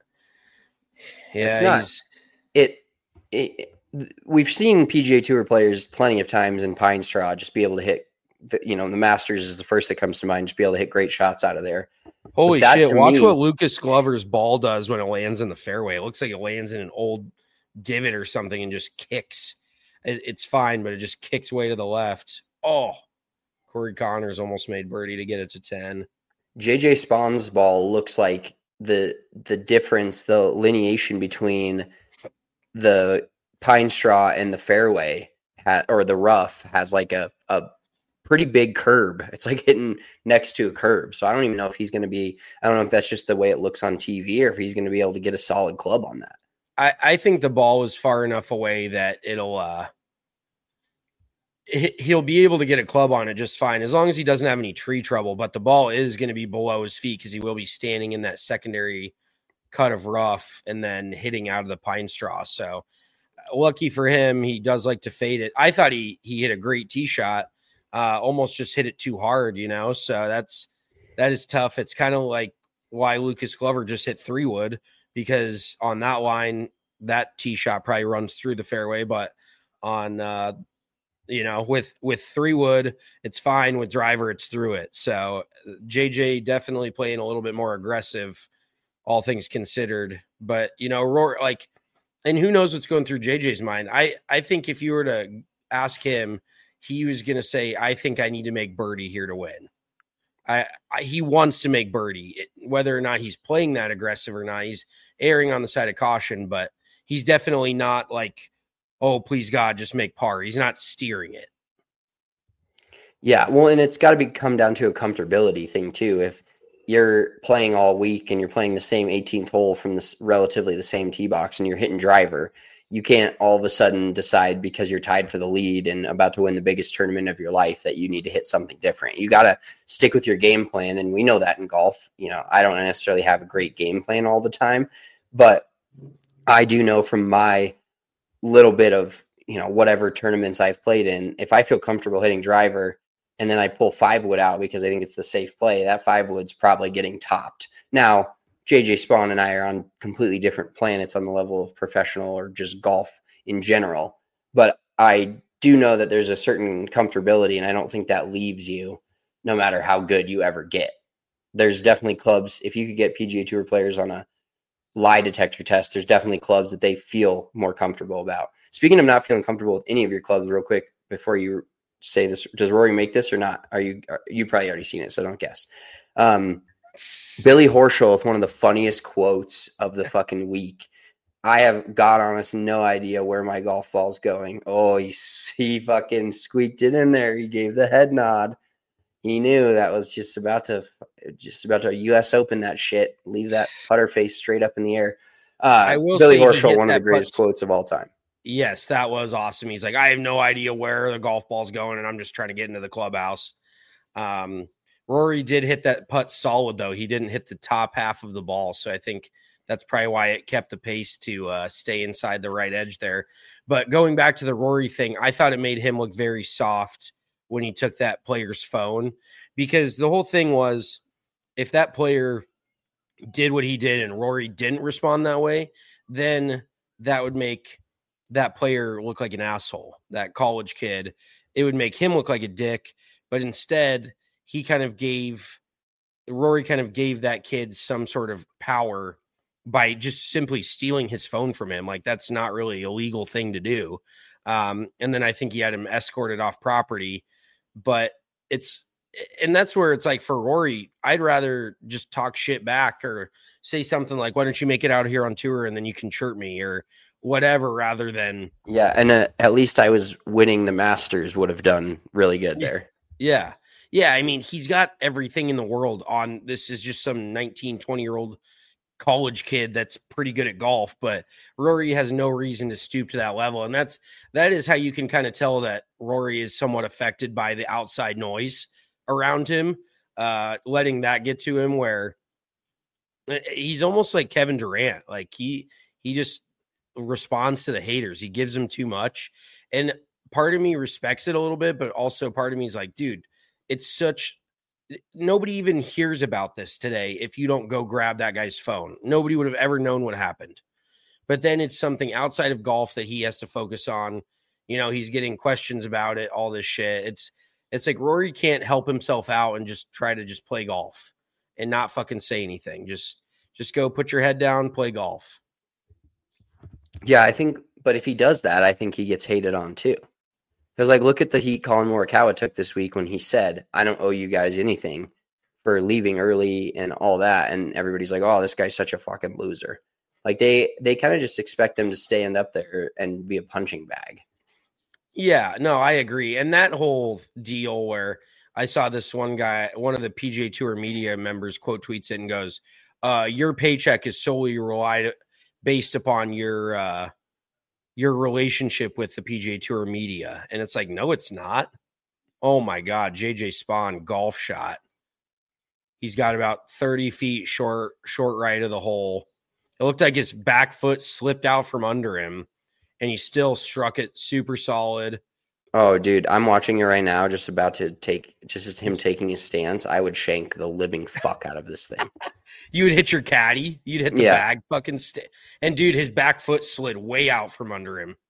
Yeah, it's not. We've seen PGA Tour players plenty of times in Pine Straw just be able to hit. The Masters is the first that comes to mind. Just be able to hit great shots out of there. Holy shit. Watch what Lucas Glover's ball does when it lands in the fairway. It looks like it lands in an old divot or something and just kicks. It's fine, but it just kicks way to the left. Oh, Corey Connors almost made birdie to get it to 10. JJ Spawn's ball looks like the difference, the lineation between the Pine Straw and the fairway or the rough has like a pretty big curb. It's like hitting next to a curb. So I don't even know if he's going to be, I don't know if that's just the way it looks on TV or if he's going to be able to get a solid club on that. I think the ball is far enough away that he'll be able to get a club on it just fine, as long as he doesn't have any tree trouble. But the ball is going to be below his feet because he will be standing in that secondary cut of rough and then hitting out of the Pine Straw. So lucky for him, he does like to fade it. I thought he hit a great tee shot. Almost just hit it too hard, so that is tough. It's kind of like why Lucas Glover just hit 3-wood, because on that line, that tee shot probably runs through the fairway, but on, with 3-wood, it's fine. With driver, it's through it. So JJ definitely playing a little bit more aggressive, all things considered, but Rory, and who knows what's going through JJ's mind. I think if you were to ask him, he was going to say, I think I need to make birdie here to win. He wants to make birdie. Whether or not he's playing that aggressive or not, he's erring on the side of caution, but he's definitely not like, oh, please God, just make par. He's not steering it. Yeah, well, and it's got to come down to a comfortability thing too. If you're playing all week and you're playing the same 18th hole from this relatively the same tee box and you're hitting driver, you can't all of a sudden decide because you're tied for the lead and about to win the biggest tournament of your life that you need to hit something different. You got to stick with your game plan. And we know that in golf. I don't necessarily have a great game plan all the time, but I do know from my little bit of, whatever tournaments I've played in, if I feel comfortable hitting driver and then I pull 5-wood out because I think it's the safe play, that 5-wood's probably getting topped. Now, JJ Spawn and I are on completely different planets on the level of professional or just golf in general. But I do know that there's a certain comfortability, and I don't think that leaves you no matter how good you ever get. There's definitely clubs, if you could get PGA Tour players on a lie detector test, there's definitely clubs that they feel more comfortable about. Speaking of not feeling comfortable with any of your clubs, real quick, before you say this, does Rory make this or not? You've probably already seen it, so don't guess. Billy Horschel with one of the funniest quotes of the fucking week. I have, God honest, no idea where my golf ball's going. Oh, he fucking squeaked it in there. He gave the head nod. He knew that was just about to U.S. Open that shit. Leave that putter face straight up in the air. Billy Horschel, one of the greatest quotes of all time. Yes, that was awesome. He's like, I have no idea where the golf ball's going, and I'm just trying to get into the clubhouse. Rory did hit that putt solid, though. He didn't hit the top half of the ball, so I think that's probably why it kept the pace to stay inside the right edge there. But going back to the Rory thing, I thought it made him look very soft when he took that player's phone, because the whole thing was, if that player did what he did and Rory didn't respond that way, then that would make that player look like an asshole, that college kid. It would make him look like a dick. But instead, Rory kind of gave that kid some sort of power by just simply stealing his phone from him. Like, that's not really a legal thing to do. And then I think he had him escorted off property. But that's where it's like, for Rory, I'd rather just talk shit back or say something like, why don't you make it out here on tour and then you can chirp me or whatever, rather than. Yeah. And at least I was winning the Masters would have done really good there. Yeah. Yeah. I mean, he's got everything in the world on. This is just some 19, 20-year-old college kid that's pretty good at golf, but Rory has no reason to stoop to that level. And that is how you can kind of tell that Rory is somewhat affected by the outside noise around him, letting that get to him, where he's almost like Kevin Durant. Like he just responds to the haters. He gives them too much. And part of me respects it a little bit, but also part of me is like, dude, nobody even hears about this today if you don't go grab that guy's phone. Nobody would have ever known what happened. But then it's something outside of golf that he has to focus on. You know, he's getting questions about it, all this shit. It's like Rory can't help himself out and just try to just play golf and not fucking say anything. Just go put your head down, play golf. Yeah, but if he does that, I think he gets hated on too. Because, like, look at the heat Colin Morikawa took this week when he said, I don't owe you guys anything for leaving early and all that. And everybody's like, oh, this guy's such a fucking loser. Like, they kind of just expect them to stand up there and be a punching bag. Yeah, no, I agree. And that whole deal where I saw this one guy, one of the PGA Tour media members, quote tweets it and goes, your paycheck is solely based upon your relationship with the PGA Tour media. And it's like, no, it's not. Oh my God. JJ Spawn golf shot. He's got about 30 feet short right of the hole. It looked like his back foot slipped out from under him and he still struck it super solid. Oh, dude, I'm watching it right now. Just as him taking his stance. I would shank the living fuck out of this thing. You would hit your caddy. You'd hit the bag fucking and dude, his back foot slid way out from under him.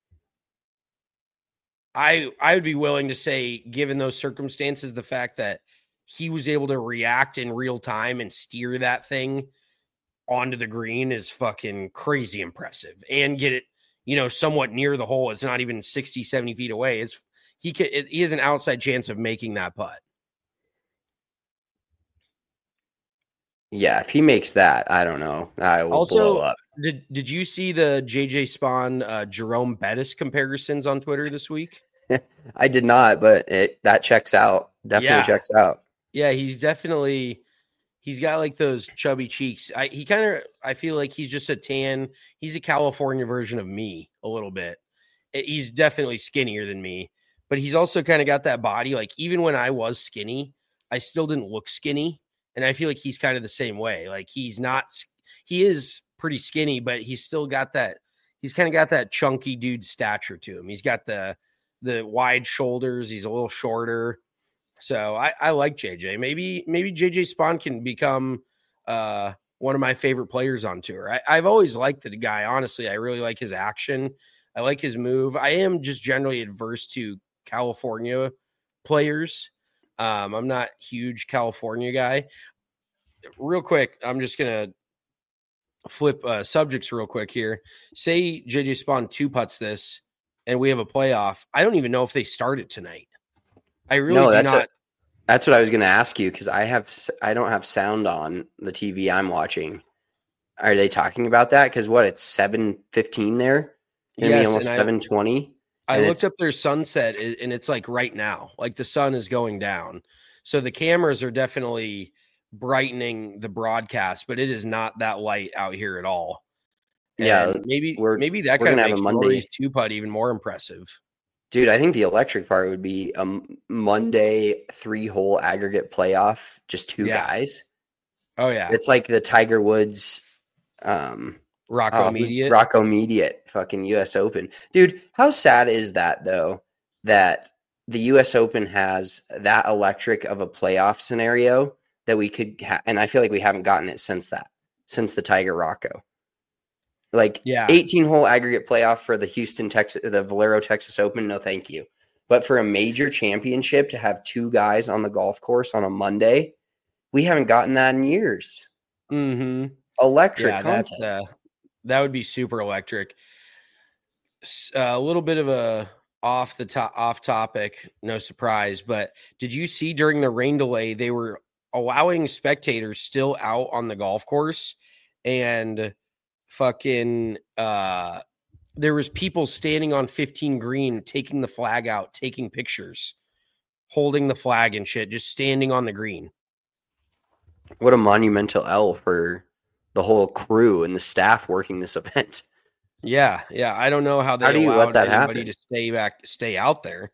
I would be willing to say, given those circumstances, the fact that he was able to react in real time and steer that thing onto the green is fucking crazy impressive, and get it, somewhat near the hole. It's not even 60, 70 feet away. He has an outside chance of making that putt. Yeah, if he makes that, I don't know. I will blow up. Did you see the JJ Spawn Jerome Bettis comparisons on Twitter this week? I did not, but that checks out. Definitely checks out. Yeah, he's got like those chubby cheeks. I feel like he's just a tan. He's a California version of me a little bit. He's definitely skinnier than me, but he's also kind of got that body. Like, even when I was skinny, I still didn't look skinny. And I feel like he's kind of the same way. Like, he is pretty skinny, but he's still got he's kind of got that chunky dude stature to him. He's got the wide shoulders. He's a little shorter. So I like JJ. Maybe JJ Spawn can become one of my favorite players on tour. I've always liked the guy. Honestly, I really like his action. I like his move. I am just generally adverse to California players. I'm not a huge California guy. Real quick, I'm just going to flip subjects real quick here. Say JJ Spawn 2 putts this and we have a playoff. I don't even know if they start it tonight. I really do not. That's what I was going to ask you, because I don't have sound on the TV I'm watching. Are they talking about that? Because it's 7:15 there? Yes, almost 7:20. I looked up their sunset, and it's like right now. Like, the sun is going down. So the cameras are definitely brightening the broadcast, but it is not that light out here at all. Yeah, And maybe that kind of makes Rory's 2-putt even more impressive. Dude, I think the electric part would be a Monday 3-hole aggregate playoff, just two guys. Oh yeah, it's like the Tiger Woods, Rocco Mediate fucking U.S. Open. Dude, how sad is that though? That the U.S. Open has that electric of a playoff scenario that we could, and I feel like we haven't gotten it since the Tiger Rocco. Like 18-hole aggregate playoff for the Valero Texas Open. No, thank you. But for a major championship to have two guys on the golf course on a Monday, we haven't gotten that in years. Mm-hmm. Electric content. That would be super electric. A little bit of a off topic, no surprise. But did you see during the rain delay, they were allowing spectators still out on the golf course, and fucking there was people standing on 15 green, taking the flag out, taking pictures, holding the flag and shit, just standing on the green. What a monumental L for the whole crew and the staff working this event. Yeah. I don't know how they allowed anybody to stay out there.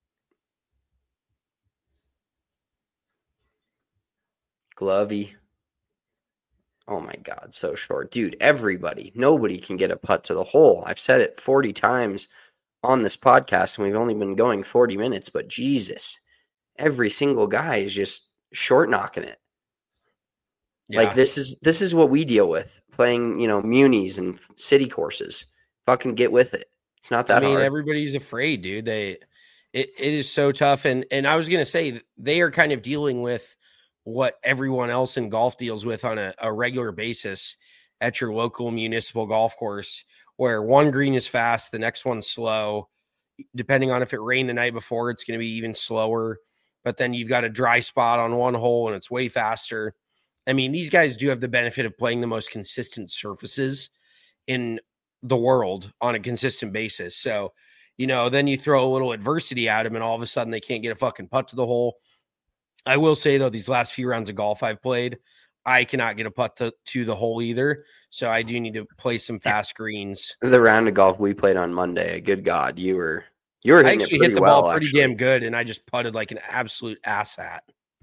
Glovey. Oh my God, so short. Dude, nobody can get a putt to the hole. I've said it 40 times on this podcast, and we've only been going 40 minutes, but Jesus, every single guy is just short knocking it. Yeah. Like this is what we deal with playing, munis and city courses. Fucking get with it. It's not that hard. Everybody's afraid, dude. It is so tough. And I was going to say, they are kind of dealing with what everyone else in golf deals with on a regular basis at your local municipal golf course, where one green is fast, the next one's slow. Depending on if it rained the night before, it's going to be even slower. But then you've got a dry spot on one hole and it's way faster. I mean, these guys do have the benefit of playing the most consistent surfaces in the world on a consistent basis. So, then you throw a little adversity at them and all of a sudden they can't get a fucking putt to the hole. I will say, though, these last few rounds of golf I've played, I cannot get a putt to the hole either. So I do need to play some fast greens. The round of golf we played on Monday, good God, you were hitting I actually it pretty hit the well, ball pretty damn good, and I just putted like an absolute asshat.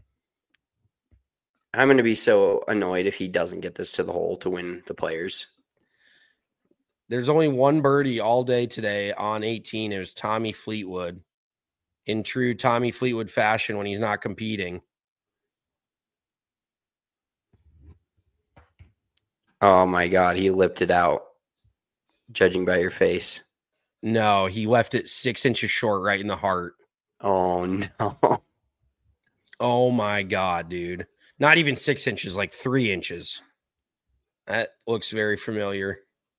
I'm going to be so annoyed if he doesn't get this to the hole to win the Players. There's only one birdie all day today on 18. It was Tommy Fleetwood. In true Tommy Fleetwood fashion when he's not competing. Oh my God, he lipped it out, judging by your face. No, he left it 6 inches short right in the heart. Oh no. Oh my God, dude. Not even 6 inches, like 3 inches. That looks very familiar.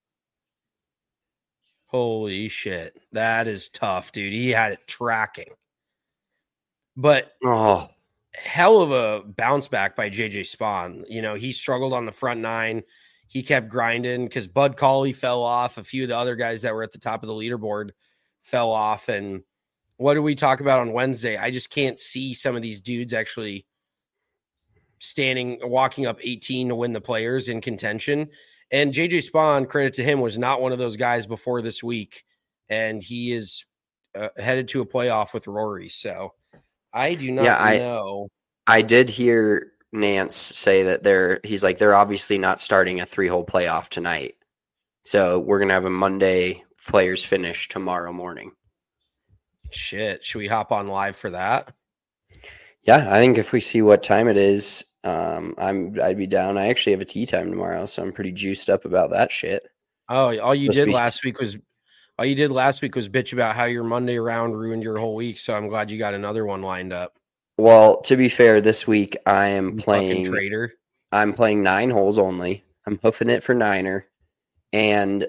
Holy shit. That is tough, dude. He had it tracking. But hell of a bounce back by JJ Spawn. He struggled on the front nine. He kept grinding because Bud Cauley fell off. A few of the other guys that were at the top of the leaderboard fell off. And what did we talk about on Wednesday? I just can't see some of these dudes actually walking up 18 to win the Players in contention. And JJ Spawn, credit to him, was not one of those guys before this week. And he is headed to a playoff with Rory. So I do not know. I did hear Nance say that they're obviously not starting a 3-hole playoff tonight. So we're going to have a Monday Players finish tomorrow morning. Shit. Should we hop on live for that? Yeah, I think if we see what time it is, I'd be down. I actually have a tee time tomorrow, so I'm pretty juiced up about that shit. Oh, all you did last week was bitch about how your Monday round ruined your whole week. So I'm glad you got another one lined up. Well, to be fair, this week I am playing traitor. I'm playing 9 holes only. I'm hoofing it for 9er, and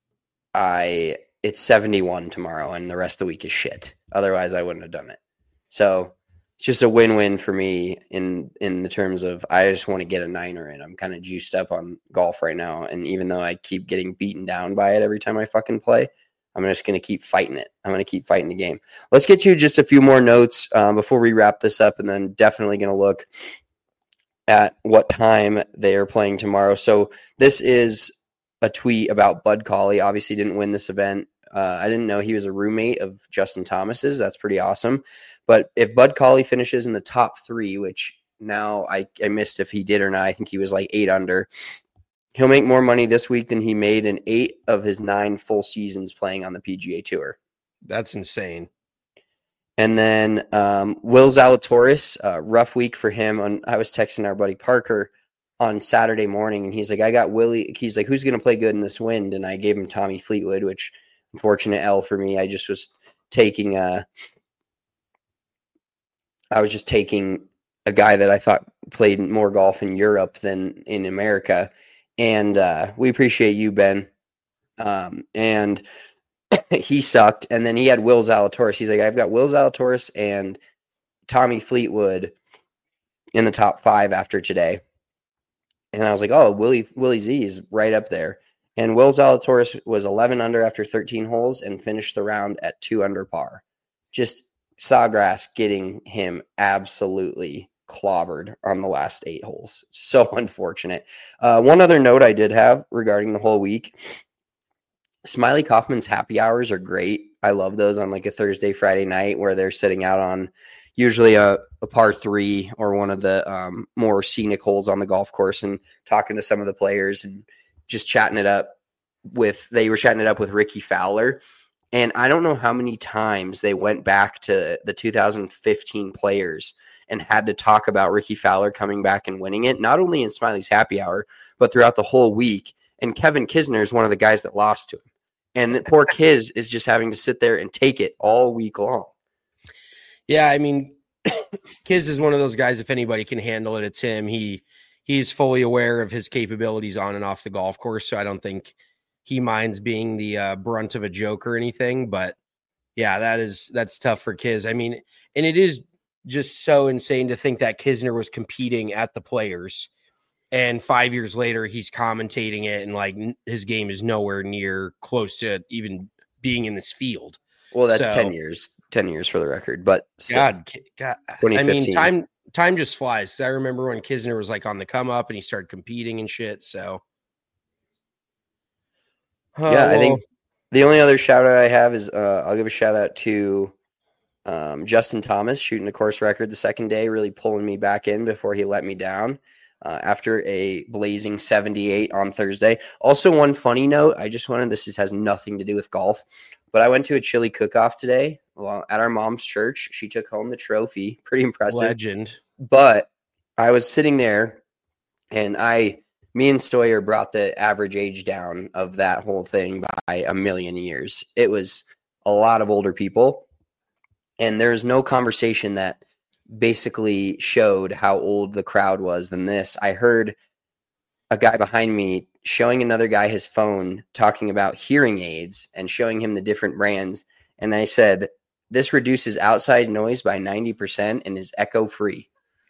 it's 71 tomorrow, and the rest of the week is shit. Otherwise, I wouldn't have done it. So it's just a win-win for me in the terms of I just want to get a 9er in. I'm kind of juiced up on golf right now, and even though I keep getting beaten down by it every time I fucking play, I'm just going to keep fighting it. I'm going to keep fighting the game. Let's get to just a few more notes before we wrap this up, and then definitely going to look at what time they are playing tomorrow. So this is a tweet about Bud Cauley. Obviously didn't win this event. I didn't know he was a roommate of Justin Thomas's. That's pretty awesome. But if Bud Cauley finishes in the top 3, which now I missed if he did or not, I think he was like 8 under. He'll make more money this week than he made in 8 of his 9 full seasons playing on the PGA Tour. That's insane. And then Will Zalatoris, rough week for him. I was texting our buddy Parker on Saturday morning, and he's like, I got Willie. He's like, who's going to play good in this wind? And I gave him Tommy Fleetwood, which unfortunate L for me. I just was taking a guy that I thought played more golf in Europe than in America. And we appreciate you, Ben. And he sucked. And then he had Will Zalatoris. He's like, I've got Will Zalatoris and Tommy Fleetwood in the top 5 after today. And I was like, oh, Willie Z is right up there. And Will Zalatoris was 11 under after 13 holes and finished the round at 2 under par. Just Sawgrass getting him absolutely clobbered on the last 8 holes. So unfortunate. One other note I did have regarding the whole week, Smiley Kaufman's happy hours are great. I love those on like a Thursday, Friday night where they're sitting out on usually a par 3 or one of the more scenic holes on the golf course and talking to some of the players and just chatting it up with Ricky Fowler. And I don't know how many times they went back to the 2015 players and had to talk about Ricky Fowler coming back and winning it, not only in Smiley's happy hour, but throughout the whole week. And Kevin Kisner is one of the guys that lost to him. And the poor Kiz is just having to sit there and take it all week long. Yeah, I mean, Kiz is one of those guys, if anybody can handle it, it's him. He's fully aware of his capabilities on and off the golf course, so I don't think he minds being the brunt of a joke or anything. But yeah, that's tough for Kiz. I mean, and it is just so insane to think that Kisner was competing at the Players, and 5 years later he's commentating it, and like his game is nowhere near close to even being in this field. Well, that's 10 years. 10 years for the record, but still, God, I mean, time just flies. I remember when Kisner was like on the come up and he started competing and shit. So, I think the only other shout out I have is I'll give a shout out to Justin Thomas shooting a course record the second day, really pulling me back in before he let me down after a blazing 78 on Thursday. Also, one funny note, this has nothing to do with golf, but I went to a chili cook-off today at our mom's church. She took home the trophy. Pretty impressive. Legend. But I was sitting there, and me and Stoyer brought the average age down of that whole thing by 1,000,000 years. It was a lot of older people, and there's no conversation that basically showed how old the crowd was than this. I heard a guy behind me showing another guy his phone, talking about hearing aids and showing him the different brands. And I said, this reduces outside noise by 90% and is echo free.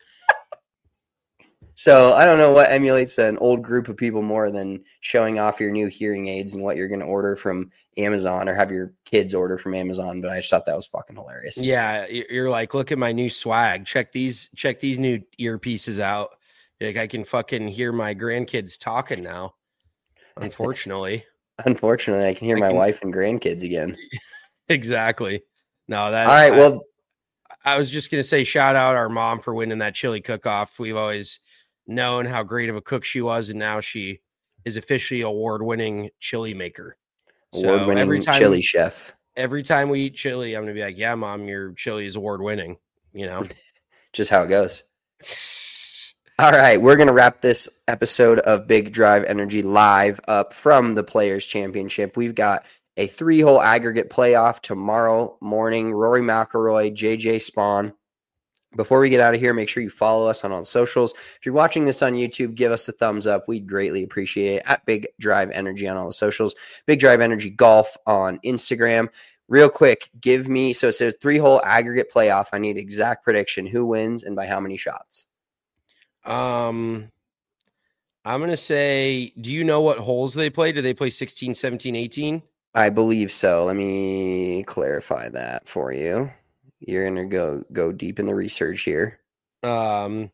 So I don't know what emulates an old group of people more than showing off your new hearing aids and what you're going to order from Amazon or have your kids order from Amazon. But I just thought that was fucking hilarious. Yeah. You're like, look at my new swag. Check these new earpieces out. Like, I can fucking hear my grandkids talking now. Unfortunately, I can hear my wife and grandkids again. Exactly. No, all right. Well, I was just going to say, shout out our mom for winning that chili cook-off. We've always known how great of a cook she was, and now she is officially award-winning chili maker. Award-winning chili chef. Every time we eat chili, I'm going to be like, yeah, Mom, your chili is award-winning, you know? Just how it goes. All right, we're going to wrap this episode of Big Drive Energy live up from the Players Championship. We've got a 3-hole aggregate playoff tomorrow morning. Rory McIlroy, JJ Spawn. Before we get out of here, make sure you follow us on all socials. If you're watching this on YouTube, give us a thumbs up. We'd greatly appreciate it. At Big Drive Energy on all the socials. Big Drive Energy Golf on Instagram. Real quick, give me, so it says 3-hole aggregate playoff. I need exact prediction. Who wins and by how many shots? I'm going to say, do you know what holes they play? Do they play 16, 17, 18? I believe so. Let me clarify that for you. You're going to go deep in the research here.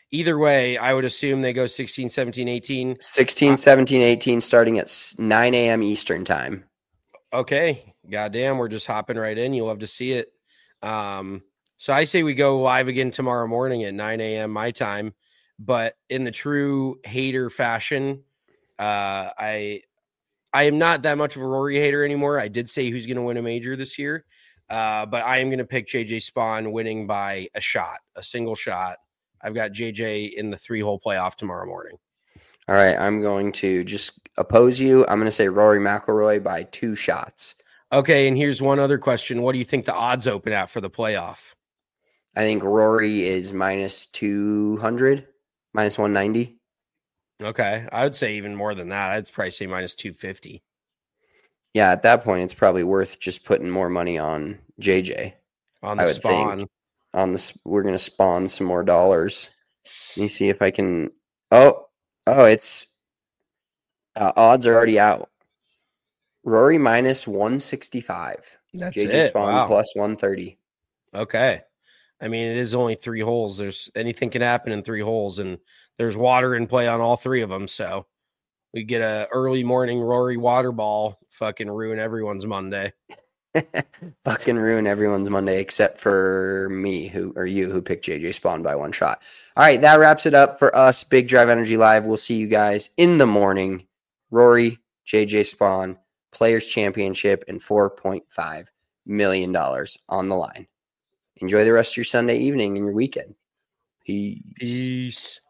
either way, I would assume they go 16, 17, 18. 16, 17, 18 starting at 9 a.m. Eastern time. Okay. Goddamn, we're just hopping right in. You'll love to see it. So I say we go live again tomorrow morning at 9 a.m. my time. But in the true hater fashion, I am not that much of a Rory hater anymore. I did say who's going to win a major this year. But I am going to pick JJ Spaun winning by a single shot. I've got JJ in the 3-hole playoff tomorrow morning. All right, I'm going to just oppose you. I'm going to say Rory McIlroy by 2 shots. Okay, and here's one other question. What do you think the odds open at for the playoff? I think Rory is minus 200, minus 190. Okay, I would say even more than that. I'd probably say minus 250. Yeah, at that point, it's probably worth just putting more money on JJ. On the Spaun. We're going to spawn some more dollars. Let me see if I can. Oh, it's odds are already out. Rory minus 165. That's JJ it. Spaun Wow. plus 130. Okay. I mean, it is only 3 holes. There's anything can happen in 3 holes, and there's water in play on all 3 of them. So we get a early morning Rory water ball, fucking ruin everyone's Monday. Fucking ruin everyone's Monday except for me, who picked JJ Spaun by 1 shot. All right, that wraps it up for us. Big Drive Energy Live. We'll see you guys in the morning. Rory, JJ Spaun, Players Championship, and $4.5 million on the line. Enjoy the rest of your Sunday evening and your weekend. Peace.